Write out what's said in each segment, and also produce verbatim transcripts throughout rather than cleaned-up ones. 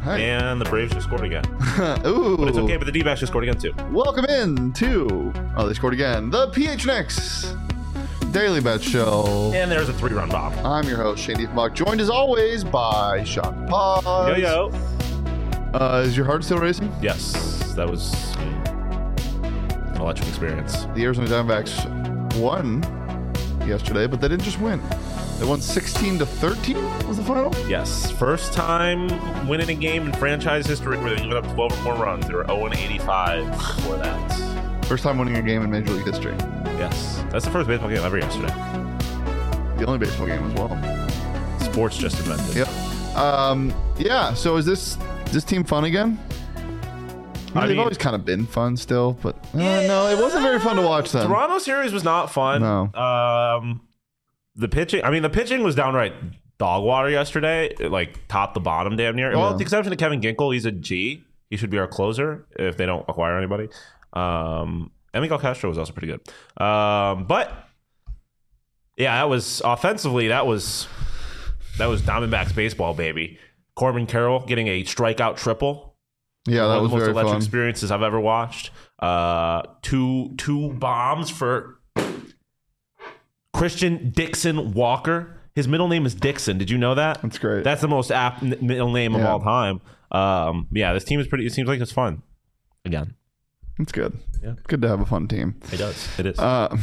Hey. And the Braves just scored again. Ooh. But it's okay, but the D-backs just scored again too. Welcome in to, oh, they scored again, the P H N X Daily Bet Show. And there's a three-run bomb. I'm your host, Shane Diefenbach, joined as always by Sean Paz. Yo, yo. Uh, is your heart still racing? Yes, that was an electric experience. The Arizona Diamondbacks won yesterday, but they didn't just win. They won sixteen to thirteen was the final? Yes, first time winning a game in franchise history where they given up twelve or more runs. They were oh and eighty-five before that. First time winning a game in Major League history. Yes, that's the first baseball game ever yesterday. The only baseball game as well. Sports just invented. Yep. Um, yeah, so is this is this team fun again? I mean, I they've mean- always kind of been fun still, but uh, no, it wasn't very fun to watch them. Toronto series was not fun. No. Um, the pitching, I mean, the pitching was downright dog water yesterday, it, like top to bottom damn near. Well, Yeah. with the exception of Kevin Ginkel, he's a G. He should be our closer if they don't acquire anybody. Um, and Miguel Castro was also pretty good. Um, but yeah, that was offensively, that was that was Diamondbacks baseball, baby. Corbin Carroll getting a strikeout triple. Yeah, that One was of the most very electric fun. experiences I've ever watched. Uh, two two bombs for Christian Dixon Walker. His middle name is Dixon. Did you know that? That's great. That's the most apt n- middle name of Yeah. all time. Um, yeah, this team is pretty. It seems like it's fun. Again, It's good. Yeah. Good to have a fun team. it does. It is. Uh,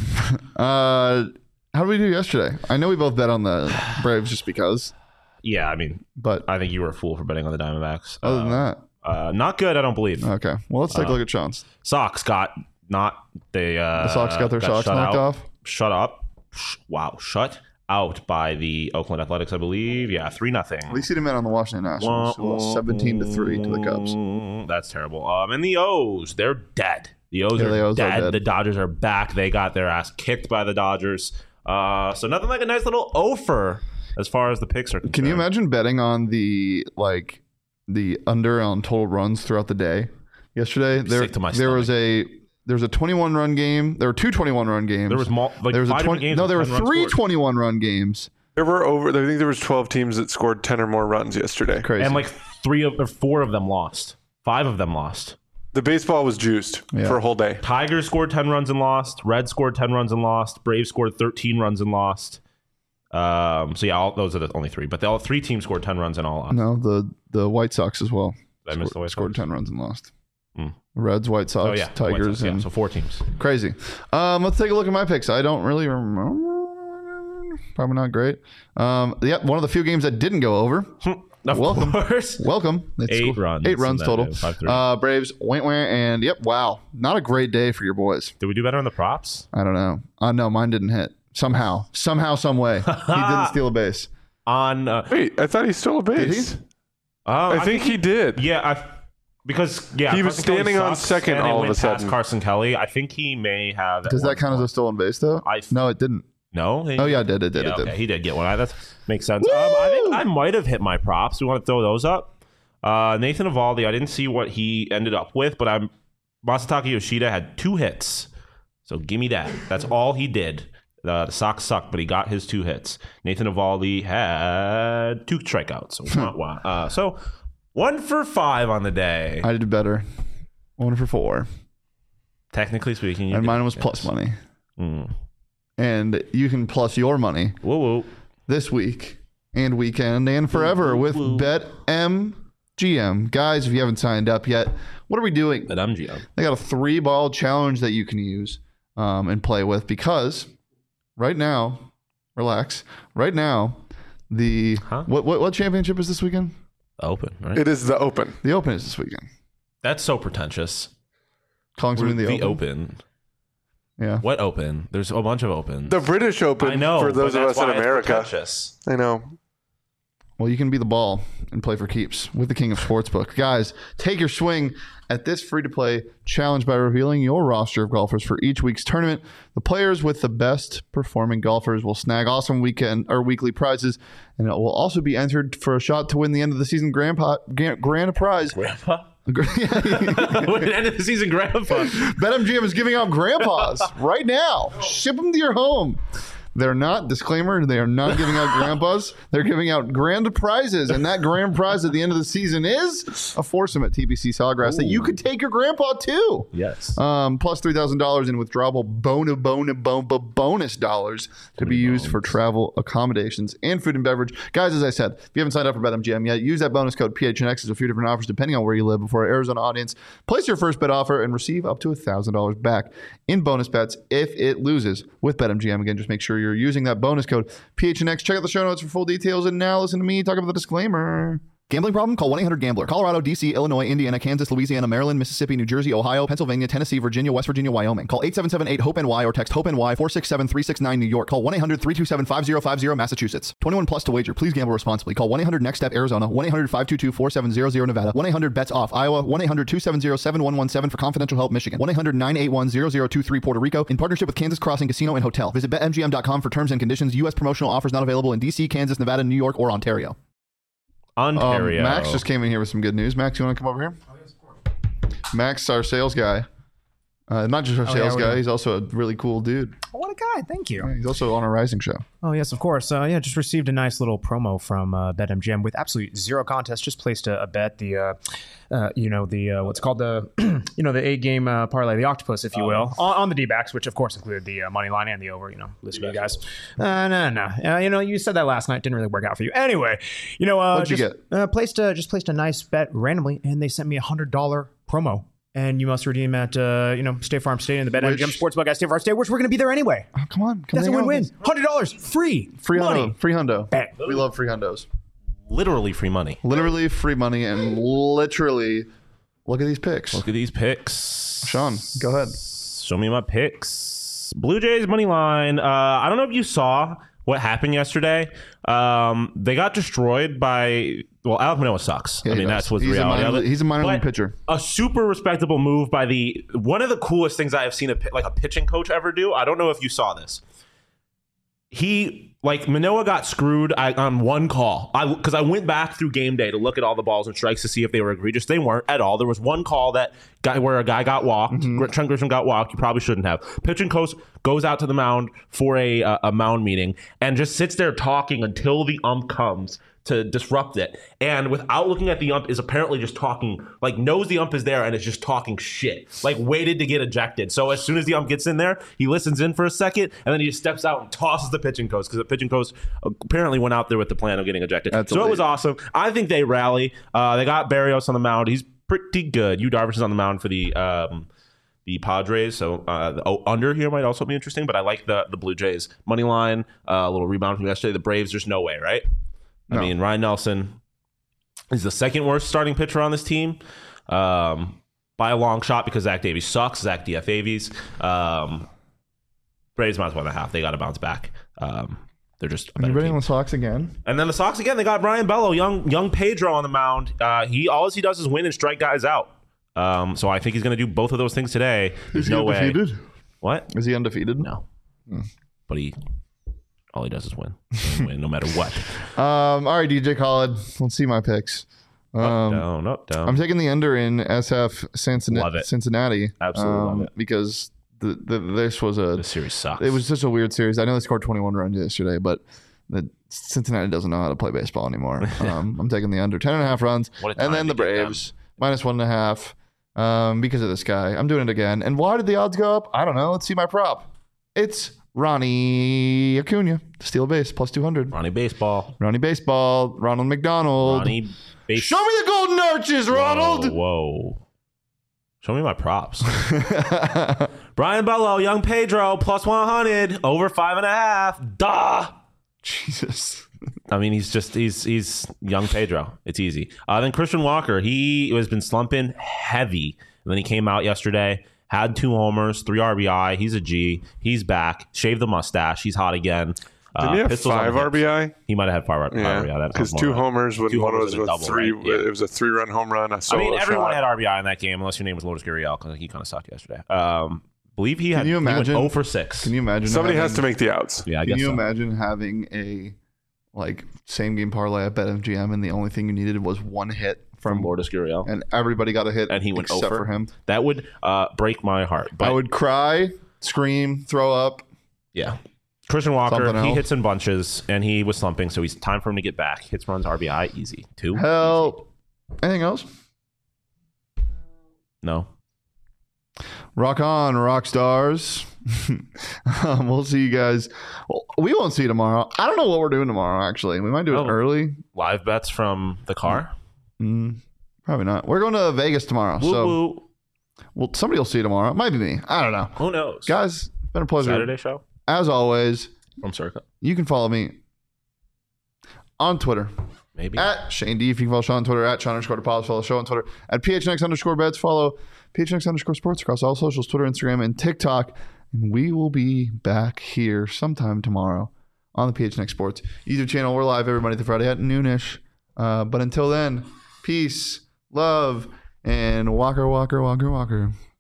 uh, how did we do yesterday? I know we both bet on the Braves just because, yeah, I mean, but I think you were a fool for betting on the Diamondbacks. other than Uh, that, uh, not good. I don't believe. okay. Well, let's take a uh, look at Sean's. Sox got not they. Uh, The Sox got their socks shut knocked out. off. Shut up! Sh- Wow, shut out by the Oakland Athletics, I believe. Yeah, three nothing. At least he didn't bet on the Washington Nationals, who lost seventeen to three to the Cubs. That's terrible. Um, and the O's, they're dead. The O's, Yeah, are, the O's are dead. dead. The Dodgers are back. They got their ass kicked by the Dodgers. Uh, so nothing like a nice little offer as far as the picks are concerned. Can you imagine betting on the like the under on total runs throughout the day? Yesterday, there sick to my there was a there was a twenty-one run game. There were two twenty-one run games. There was mul- like there was a five different twenty. games No, with there were ten runs three scored. twenty-one run games. There were over. I think there was twelve teams that scored ten or more runs yesterday. Crazy. and like three of or four of them lost. Five of them lost. The baseball was juiced Yeah. for a whole day. Tigers scored ten runs and lost. Reds scored ten runs and lost. Braves scored thirteen runs and lost. Um, so yeah, all, those are the only three. But the all three teams scored ten runs and all lost. no, the the White Sox as well. Did I miss the White scored Sox? ten runs and lost. Mm. Reds, White Sox, Oh yeah, the White Tigers, Sox, yeah. and So four teams. crazy. Um, let's take a look at my picks. I don't really remember. Probably not great. Um, yeah, one of the few games that didn't go over. Of Welcome. course. Welcome. It's Eight cool. runs. Eight runs And then total. five, three. Uh, Braves went went and yep. Wow, not a great day for your boys. Did we do better on the props? I don't know. Uh, no, mine didn't hit. Somehow, somehow, some way, he didn't steal a base. On uh, Wait, I thought he stole a Did base. he? uh, I, think he did. Yeah, I, because yeah, He was Carson Kelly standing on sucks, second and it all of went a sudden. past Carson Kelly. I think he may have. Does that count as a stolen base though? I- no, it didn't. no? He- Oh yeah, it did. It did. Yeah, it did. okay, he did get one. I, that makes sense. Um, I think I might have hit my props. We want to throw those up. Uh, Nathan Eovaldi, I didn't see what he ended up with, but I'm Masataka Yoshida had two hits. So give me that. That's all he did. Uh, the Sox sucked, but he got his two hits. Nathan Eovaldi had two strikeouts. So, wah, wah. Uh, so one for five on the day. I did better. One for four, Technically speaking, you and did- mine was yes. plus money. Mm. And you can plus your money Whoa, whoa. this week and weekend and forever with BetMGM. Guys, if you haven't signed up yet, what are we doing? That M G M. They got a three ball challenge that you can use um, and play with because right now, relax. Right now, the Huh? what, what what championship is this weekend? Open, right? It is the Open. The Open is this weekend. That's so pretentious. Calling something the, the Open. open. Yeah. What open? There's a bunch of opens. The British Open I know, for those but of that's us in why it's America. pretentious. I know. Well, you can be the ball and play for keeps with the King of Sportsbook. Guys, take your swing at this free-to-play challenge by revealing your roster of golfers for each week's tournament. The players with the best performing golfers will snag awesome weekend or weekly prizes, and it will also be entered for a shot to win the end of the season grand, po- grand, grand prize. Grandpa? Win the end of the season, Grandpa. BetMGM is giving out grandpas right now. Ship them to your home. They're not, disclaimer, they are not giving out grandpas. They're giving out grand prizes. And that grand prize at the end of the season is a foursome at T B C Sawgrass Ooh. that you could take your grandpa to. Yes. Um, plus three thousand dollars in withdrawable bona, bona, bona, bonus dollars to be used for travel accommodations and food and beverage. Guys, as I said, if you haven't signed up for BetMGM yet, use that bonus code P H N X. There's a few different offers depending on where you live before our Arizona audience. Place your first bet offer and receive up to one thousand dollars back in bonus bets if it loses with BetMGM. Again, just make sure you're using that bonus code P H N X. Check out the show notes for full details. And now listen to me talk about the disclaimer. Gambling problem? Call one eight hundred gambler. Colorado, D C, Illinois, Indiana, Kansas, Louisiana, Maryland, Mississippi, New Jersey, Ohio, Pennsylvania, Tennessee, Virginia, West Virginia, Wyoming. Call eight seven seven eight hope N Y or text HOPE-NY four six seven three six nine New York. Call one eight hundred three two seven five zero five zero Massachusetts. twenty-one plus to wager. Please gamble responsibly. Call one eight hundred next step Arizona. one eight hundred five two two four seven zero zero Nevada. one eight hundred bets off Iowa. one eight hundred two seven zero seven one one seven for confidential help Michigan. one eight hundred nine eight one zero zero two three Puerto Rico. In partnership with Kansas Crossing Casino and Hotel. Visit bet M G M dot com for terms and conditions. U S promotional offers not available in D C, Kansas, Nevada, New York, or Ontario. Ontario. Um, Max just came in here with some good news. Max, you want to come over here? Oh, yes, of course. Max, our sales guy. Uh, not just our oh, sales yeah, guy, he's also a really cool dude. Oh, what a guy. Thank you. Yeah, he's also on a Rising show. Oh, yes, of course. Uh, yeah, just received a nice little promo from uh, BetMGM with absolutely zero contest. Just placed a, a bet, the, uh, uh, you know, the, uh, what's called the, you know, the eight-game uh, parlay, the octopus, if you will, on, on the D-backs, which, of course, included the uh, money line and the over, you know, listen to you guys. Uh, no, no. Uh, you know, you said that last night. Didn't really work out for you. Anyway, you know, uh, What'd just, you get? Uh, placed, uh, just placed a nice bet randomly, and they sent me a one hundred dollars promo. And you must redeem at, uh, you know, State Farm Stadium, the BetMGM Sportsbook at State Farm Stadium, which we're going to be there anyway. Oh, come on. Come That's a win-win. one hundred dollars free. Free money. hundo. Free hundo. Bang. We love free hundos. Literally free money. Literally free money and literally, look at these picks. Look at these picks. Sean, go ahead. Show me my picks. Blue Jays money line. Uh, I don't know if you saw what happened yesterday. Um, they got destroyed by... Well, Alek Manoah sucks. Yeah, I mean, that's what's the he's reality a minor, of it. He's a minor league But pitcher. A super respectable move by the... One of the coolest things I have seen a, like a pitching coach ever do. I don't know if you saw this. He... Like, Manoah got screwed I, on one call. I Because I went back through game day to look at all the balls and strikes to see if they were egregious. They weren't at all. There was one call that guy where a guy got walked. Mm-hmm. Trent Grisham got walked. You probably shouldn't have. Pitching coach goes out to the mound for a, uh, a mound meeting and just sits there talking until the ump comes to disrupt it. And without looking at the ump is apparently just talking, like knows the ump is there and is just talking shit. Like waited to get ejected. So as soon as the ump gets in there, he listens in for a second and then he just steps out and tosses the pitching coach because the pitching coach apparently went out there with the plan of getting ejected. That's so elite. It was awesome. I think they rally. Uh, they got Barrios on the mound. He's pretty good. Yu Darvish is on the mound for the um, the Padres. So uh, the oh, under here might also be interesting, but I like the, the Blue Jays. Money line, uh, a little rebound from yesterday. The Braves, there's no way, right? I no. mean, Ryan Nelson is the second worst starting pitcher on this team um, by a long shot because Zach Davies sucks. Zach D F Avies. Um, Braves minus one and a half. They got to bounce back. Um, they're just. Are you betting on the Sox again? And then the Sox again. They got Brian Bello, young young Pedro on the mound. Uh, he all he does is win and strike guys out. Um, so I think he's going to do both of those things today. There's is he no undefeated? way. What? Is he undefeated? No. Hmm. But he. All he does is win, win no matter what. Um, all right, D J Khaled. Let's see my picks. Um, up, down, up, down. I'm taking the under in S F Cincinnati. Love it. Cincinnati. Absolutely um, love it. Because the, the, this was a... The series sucks. It was such a weird series. I know they scored twenty-one runs yesterday, but the Cincinnati doesn't know how to play baseball anymore. Um, I'm taking the under. ten and a half runs. And then the Braves, minus one and a half um, because of this guy. I'm doing it again. And why did the odds go up? I don't know. Let's see my prop. It's... Ronnie Acuna, steal a base, plus two hundred. Ronnie Baseball. Ronnie Baseball. Ronald McDonald. Ronnie Base- Show me the golden arches, Ronald. Whoa. whoa. Show me my props. Brian Bello, young Pedro, plus one hundred, over five and a half. Duh. Jesus. I mean, he's just, he's he's young Pedro. It's easy. Uh, then Christian Walker, he has been slumping heavy. And then he came out yesterday. Had two homers, three R B I. He's a G. He's back. Shaved the mustache. He's hot again. Did uh, he have five R B I? He might have had five, yeah, R B I. Because two homers when two one homers was a double, three. Right? Yeah. It was a three-run home run. A I mean, everyone shot. had R B I in that game, unless your name was Lourdes Gurriel, because he kind of sucked yesterday. Um, believe he had. Can you imagine? He went zero for six. Can you imagine? Somebody having, has to make the outs. Yeah, I can guess you so. imagine having a like same game parlay at BetMGM, and the only thing you needed was one hit from Lourdes Gurriel, and everybody got a hit, and he went except over for him. That would uh, break my heart. But I would cry, scream, throw up. Yeah, Christian Walker, Something he else. hits in bunches, and he was slumping, so he's time for him to get back. Hits, runs, R B I, easy. Two. Hell. Anything else? No. Rock on, rock stars. um, we'll see you guys. Well, we won't see you tomorrow. I don't know what we're doing tomorrow, actually. We might do it Oh. early. Live bets from the car. Mm, probably not. We're going to Vegas tomorrow. Woo so, woo. well, somebody will see you tomorrow. It might be me. I don't know. Who knows? Guys, it's been a pleasure. Saturday show As always, from Circa. you can follow me on Twitter. Maybe. At Shane D. If you can follow Sean on Twitter. At Sean underscore DePaulis. Follow the show on Twitter. At P H N X underscore bets. Follow P H N X underscore sports across all socials, Twitter, Instagram, and TikTok. And we will be back here sometime tomorrow on the P H N X Sports YouTube channel. We're live every Monday through Friday at noonish. Uh, but until then, peace, love, and walker, walker, walker, walker.